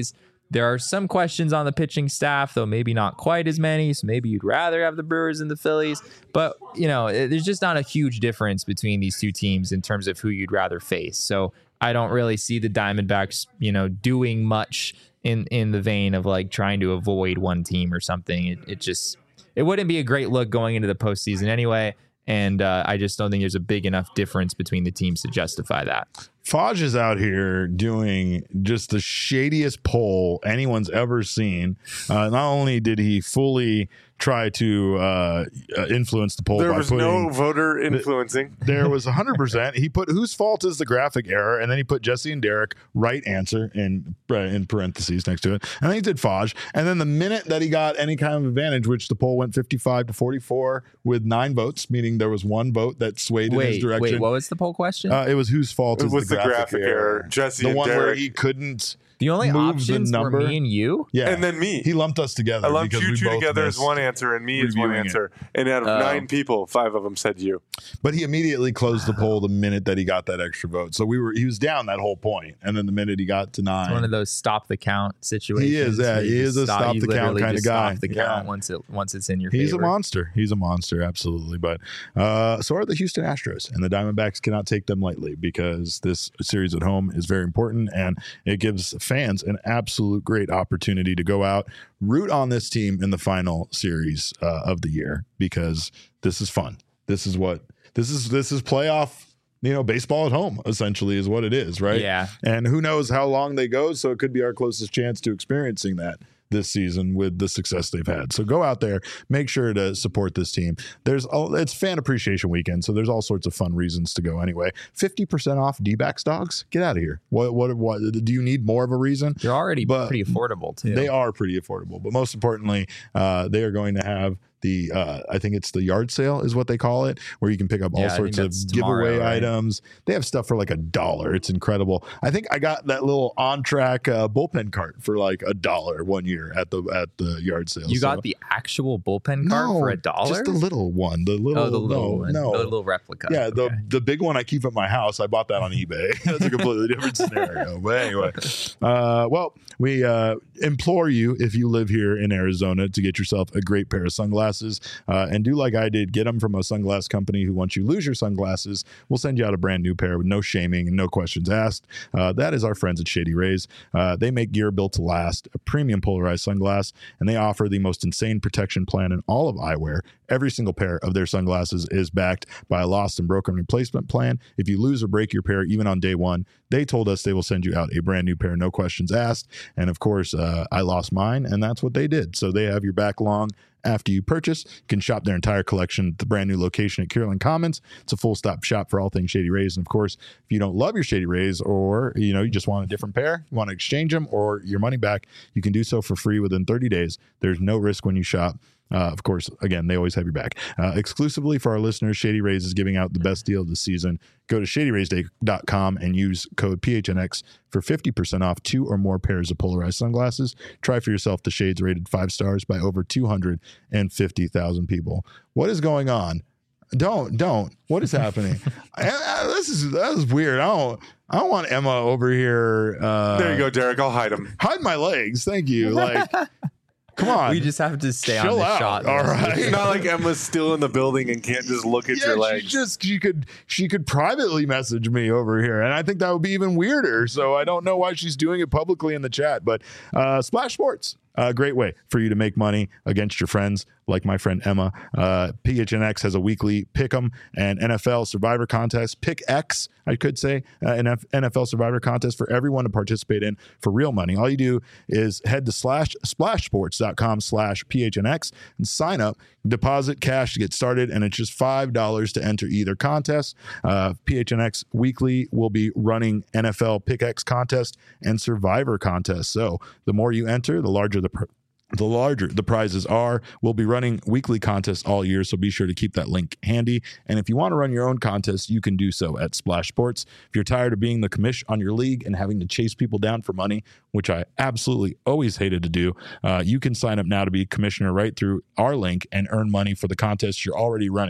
There are some questions on the pitching staff, though maybe not quite as many. So maybe you'd rather have the Brewers and the Phillies. But, you know, it, there's just not a huge difference between these two teams in terms of who you'd rather face. So I don't really see the Diamondbacks, you know, doing much in, in the vein of like trying to avoid one team or something. It, it just, it wouldn't be a great look going into the postseason anyway. And uh, I just don't think there's a big enough difference between the teams to justify that. Fudge is out here doing just the shadiest poll anyone's ever seen. Uh, not only did he fully try to uh, uh, influence the poll, there by was putting, no voter influencing. There was one hundred percent. He put whose fault is the graphic error, and then he put Jesse and Derek right answer in uh, in parentheses next to it. And then he did Fudge. And then the minute that he got any kind of advantage, which the poll went fifty-five to forty-four with nine votes, meaning there was one vote that swayed wait, in his direction. Wait, what was the poll question? Uh, it was whose fault It is was the the graphic, graphic error. error. Jesse the and one where Derek. he couldn't. The only move options the were number. me and you. Yeah, And then me. He lumped us together. I lumped because you we two both together as missed one answer and me as one reviewing it. answer. And out of Oh. nine people, five of them said you. But he immediately closed the poll the minute that he got that extra vote. So we were he was down that whole point, and then the minute he got to nine, It's one of those stop the count situations. He is, yeah, where you he just is a stop you the count literally kinda just guy. Stop the Yeah. count once it once it's in your he's favor. a monster. He's a monster, absolutely. But uh, so are the Houston Astros, and the Diamondbacks cannot take them lightly because this series at home is very important, and it gives fans an absolute great opportunity to go out, root on this team in the final series uh, of the year, because this is fun. This is what this is. This is playoff. You know, baseball at home essentially is what it is, right? Yeah. And who knows how long they go, so it could be our closest chance to experiencing that this season with the success they've had. So go out there, make sure to support this team. There's all, it's fan appreciation weekend, so there's all sorts of fun reasons to go anyway. fifty percent off D-backs dogs. Get out of here. What what what do you need more of a reason? They're already But pretty affordable too. They are pretty affordable, but most importantly, uh, they are going to have the uh, I think it's the yard sale is what they call it, where you can pick up all Yeah, I sorts think of that's giveaway tomorrow, right? items. They have stuff for like a dollar. It's incredible. I think I got that little on track uh, bullpen cart for like a dollar one year at the at the yard sale. You So- got the actual bullpen cart no, for a dollar? just the little one. The little, oh, the little no, one. no. The little replica. Yeah, the Okay. the big one I keep at my house. I bought that on eBay. That's a completely different scenario. But anyway, uh, well, we uh, implore you, if you live here in Arizona, to get yourself a great pair of sunglasses, uh, and do like I did. Get them from a sunglass company who, once you lose your sunglasses, will send you out a brand new pair with no shaming and no questions asked. Uh, that is our friends at Shady Rays. Uh, they make gear built to last, a premium polarized sunglass, and they offer the most insane protection plan in all of eyewear. Every single pair of their sunglasses is backed by a lost and broken replacement plan. If you lose or break your pair, even on day one, they told us they will send you out a brand new pair, no questions asked. And of course, uh, I lost mine, and that's what they did. So they have your back long after you purchase. You can shop their entire collection at the brand new location at Kierland Commons. It's a full stop shop for all things Shady Rays. And of course, if you don't love your Shady Rays, or you know you just want a different pair, you want to exchange them or your money back, you can do so for free within thirty days. There's no risk when you shop. Uh, of course, again, they always have your back. Uh, exclusively for our listeners, Shady Rays is giving out the best deal of the season. Go to shady rays dot com and use code P H N X for fifty percent off two or more pairs of polarized sunglasses. Try for yourself the shades rated five stars by over two hundred fifty thousand people. What is going on? Don't, don't. What is happening? I, I, this is that is weird. I don't, I don't want Emma over here. Uh, There you go, Derek. I'll hide him. Hide my legs. Thank you. Like, come on. We just have to stay Chill on the out. shot. All right. It's not like Emma's still in the building and can't just look at Yeah, your she legs. just she could she could privately message me over here, and I think that would be even weirder. So I don't know why she's doing it publicly in the chat. But uh, Splash Sports, a great way for you to make money against your friends, like my friend Emma. Uh, P H N X has a weekly Pick'em and N F L Survivor contest. Pick X, I could say, uh, an N F L Survivor contest for everyone to participate in for real money. All you do is head to slash splashsports.com slash PHNX and sign up, deposit cash to get started, and it's just five dollars to enter either contest. Uh, P H N X Weekly will be running N F L Pick X contest and Survivor contest. So the more you enter, the larger the pr- the larger the prizes are. We'll be running weekly contests all year, so be sure to keep that link handy. And if you want to run your own contest, you can do so at Splash Sports. If you're tired of being the commish on your league and having to chase people down for money, which I absolutely always hated to do, uh, you can sign up now to be commissioner right through our link and earn money for the contest you're already running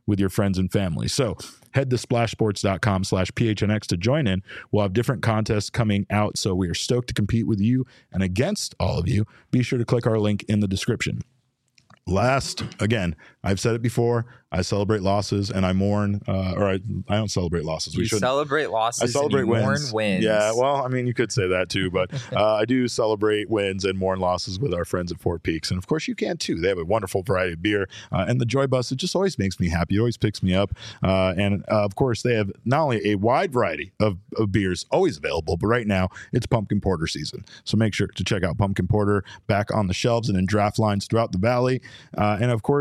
with your friends and family. So head to splashsports.com slash PHNX to join in. We'll have different contests coming out, so we are stoked to compete with you and against all of you. Be sure to click our link in the description. Last, again, I've said it before, I celebrate losses and I mourn, uh, or I, I don't celebrate losses. You we should celebrate losses. I celebrate and you wins. Mourn wins. Yeah, well, I mean, you could say that too, but uh, I do celebrate wins and mourn losses with our friends at Four Peaks, and of course, you can too. They have a wonderful variety of beer, uh, and the Joy Bus. It just always makes me happy. It always picks me up, uh, and uh, of course, they have not only a wide variety of, of beers always available, but right now it's pumpkin porter season. So make sure to check out pumpkin porter back on the shelves and in draft lines throughout the valley, uh, and of course.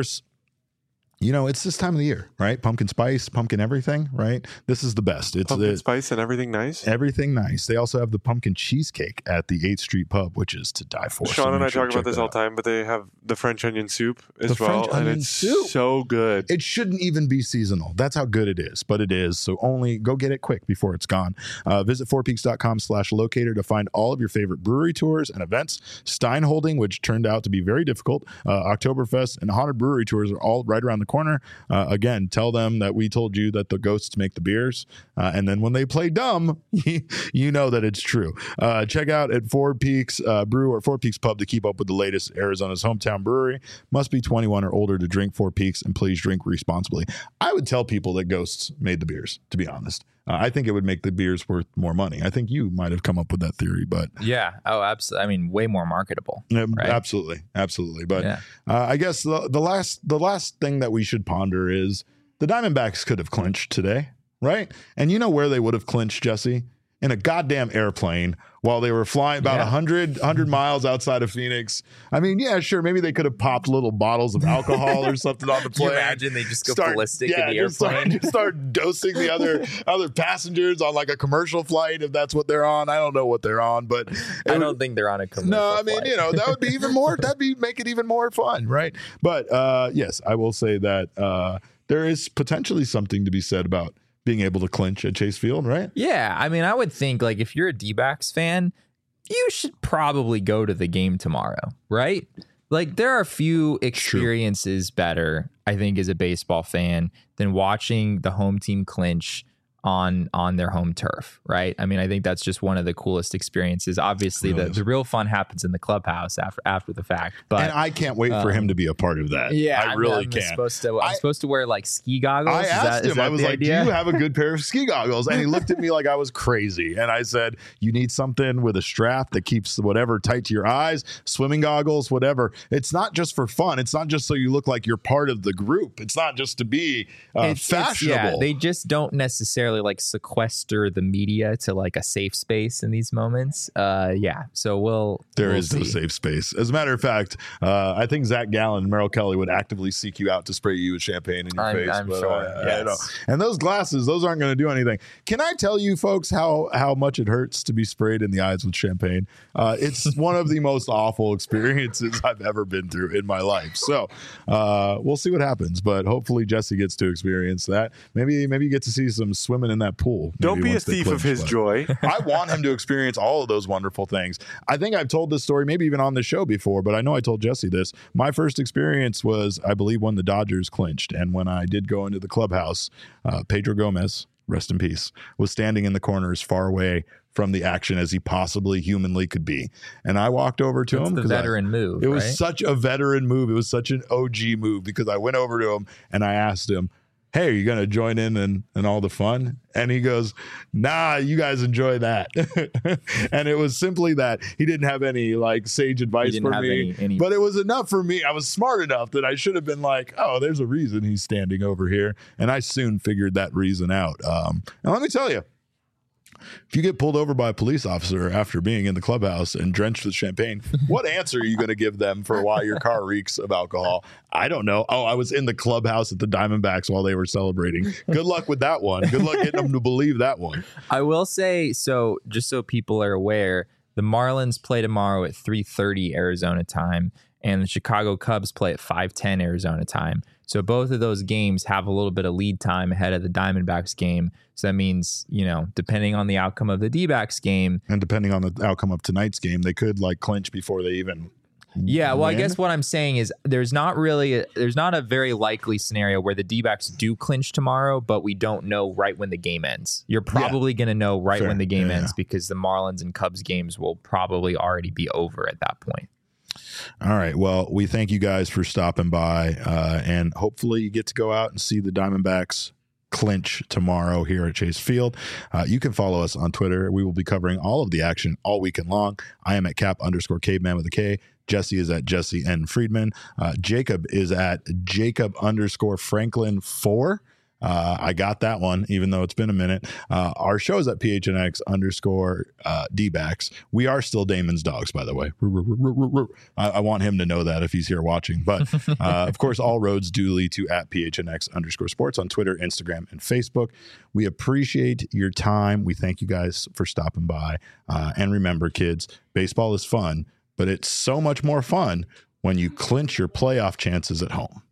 You know, it's this time of the year, right? Pumpkin spice, pumpkin everything, right? This is the best. It's Pumpkin the, spice and everything nice. Everything nice. They also have the pumpkin cheesecake at the eighth Street Pub, which is to die for. Sean so and I sure talk to about check this that all out. the time, but they have the French onion soup as The well, French and onion it's soup. so good. It shouldn't even be seasonal. That's how good it is, but it is. So only go get it quick before it's gone. Uh, visit fourpeaks.com slash locator to find all of your favorite brewery tours and events. Stein Holding, which turned out to be very difficult. Uh, Oktoberfest and Haunted Brewery tours are all right around the corner. Uh, again, tell them that we told you that the ghosts make the beers. Uh, and then when they play dumb, you know that it's true. Uh, check out at Four Peaks uh, Brew or Four Peaks Pub to keep up with the latest Arizona's hometown brewery. Must be twenty-one or older to drink Four Peaks, and please drink responsibly. I would tell people that ghosts made the beers, to be honest. Uh, I think it would make the beers worth more money. I think you might have come up with that theory, but Yeah. Oh, absolutely. I mean, way more marketable. yeah, right? absolutely, absolutely. But Yeah. uh, I guess the, the last the last thing that we should ponder is the Diamondbacks could have clinched today, right? And you know where they would have clinched, Jesse? In a goddamn airplane while they were flying about Yeah. one hundred, one hundred miles outside of Phoenix. I mean, yeah, sure, maybe they could have popped little bottles of alcohol or something on the Can you plane. imagine they just go Start- ballistic yeah, in the just start- airplane? Just start, dosing the other other passengers on like a commercial flight if that's what they're on. I don't know what they're on, but it I would- don't think they're on a commercial. no, I mean, flight. you know, that would be even more, that'd be make it even more fun, right? But uh, yes, I will say that uh, there is potentially something to be said about being able to clinch at Chase Field, right? Yeah, I mean, I would think like if you're a D-backs fan, you should probably go to the game tomorrow, right? Like there are few experiences better, I think, as a baseball fan than watching the home team clinch on on their home turf, right? I mean, I think that's just one of the coolest experiences. Obviously, Really the, is. the real fun happens in the clubhouse after after the fact. But And I can't wait for um, him to be a part of that. yeah, I I'm- really I'm can. Supposed to, I'm I- supposed to wear like ski goggles. I Is asked that- is him, that I was the like, idea? do you have a good pair of ski goggles? And he looked at me like I was crazy. And I said, you need something with a strap that keeps whatever tight to your eyes, swimming goggles, whatever. It's not just for fun. It's not just so you look like you're part of the group. It's not just to be uh, It's- it's- fashionable. yeah, they just don't necessarily like sequester the media to like a safe space in these moments. Uh, yeah, so we'll There we'll is no see. safe space. As a matter of fact, uh, I think Zach Gallen and Merrill Kelly would actively seek you out to spray you with champagne in your I'm- face. I'm but, sure, uh, I yes. know. And those glasses, those aren't going to do anything. Can I tell you, folks, how how much it hurts to be sprayed in the eyes with champagne? Uh, it's one of the most awful experiences I've ever been through in my life. So uh, we'll see what happens. But hopefully Jesse gets to experience that. Maybe maybe you get to see some swimming in that pool. Don't maybe be a once they thief of clinch, his but- joy. I want him to experience all of those wonderful things. I think I've told this story, maybe even on the show before, but I know I told Jesse this. My first experience was, I believe, when the Dodgers clinched. And when I did go into the clubhouse, uh, Pedro Gomez, rest in peace, was standing in the corner as far away from the action as he possibly humanly could be. And I walked over to That's him. the 'cause I- veteran move. it was right? such a veteran move. It was such an O G move because I went over to him and I asked him, hey, are you going to join in and, and all the fun? And he goes, nah, you guys enjoy that. And it was simply that he didn't have any like sage advice didn't for have me, any- any- but it was enough for me. I was smart enough that I should have been like, oh, there's a reason he's standing over here. And I soon figured that reason out. Um, and let me tell you, if you get pulled over by a police officer after being in the clubhouse and drenched with champagne, what answer are you going to give them for why your car reeks of alcohol? I don't know. Oh, I was in the clubhouse at the Diamondbacks while they were celebrating. Good luck with that one. Good luck getting them to believe that one. I will say, so just so people are aware, the Marlins play tomorrow at three thirty Arizona time, and the Chicago Cubs play at five ten Arizona time. So both of those games have a little bit of lead time ahead of the Diamondbacks game. So that means, you know, depending on the outcome of the D-backs game, And depending on the outcome of tonight's game, they could like clinch before they even Yeah, well, win? I guess what I'm saying is there's not really a, there's not a very likely scenario where the D-backs do clinch tomorrow, but we don't know right when the game ends. You're probably yeah. going to know right Fair. when the game yeah, ends yeah. because the Marlins and Cubs games will probably already be over at that point. All right. Well, we thank you guys for stopping by, uh, and hopefully you get to go out and see the Diamondbacks clinch tomorrow here at Chase Field. Uh, you can follow us on Twitter. We will be covering all of the action all weekend long. I am at cap underscore caveman with a K. Jesse is at Jesse N. Friedman. Uh, Jacob is at Jacob underscore Franklin four. Uh, I got that one, even though it's been a minute. Uh, our show is at P H N X underscore uh, D-backs. We are still Damon's dogs, by the way. I, I want him to know that if he's here watching. But, uh, of course, all roads do lead to at P H N X underscore sports on Twitter, Instagram, and Facebook. We appreciate your time. We thank you guys for stopping by. Uh, and remember, kids, baseball is fun, but it's so much more fun when you clinch your playoff chances at home.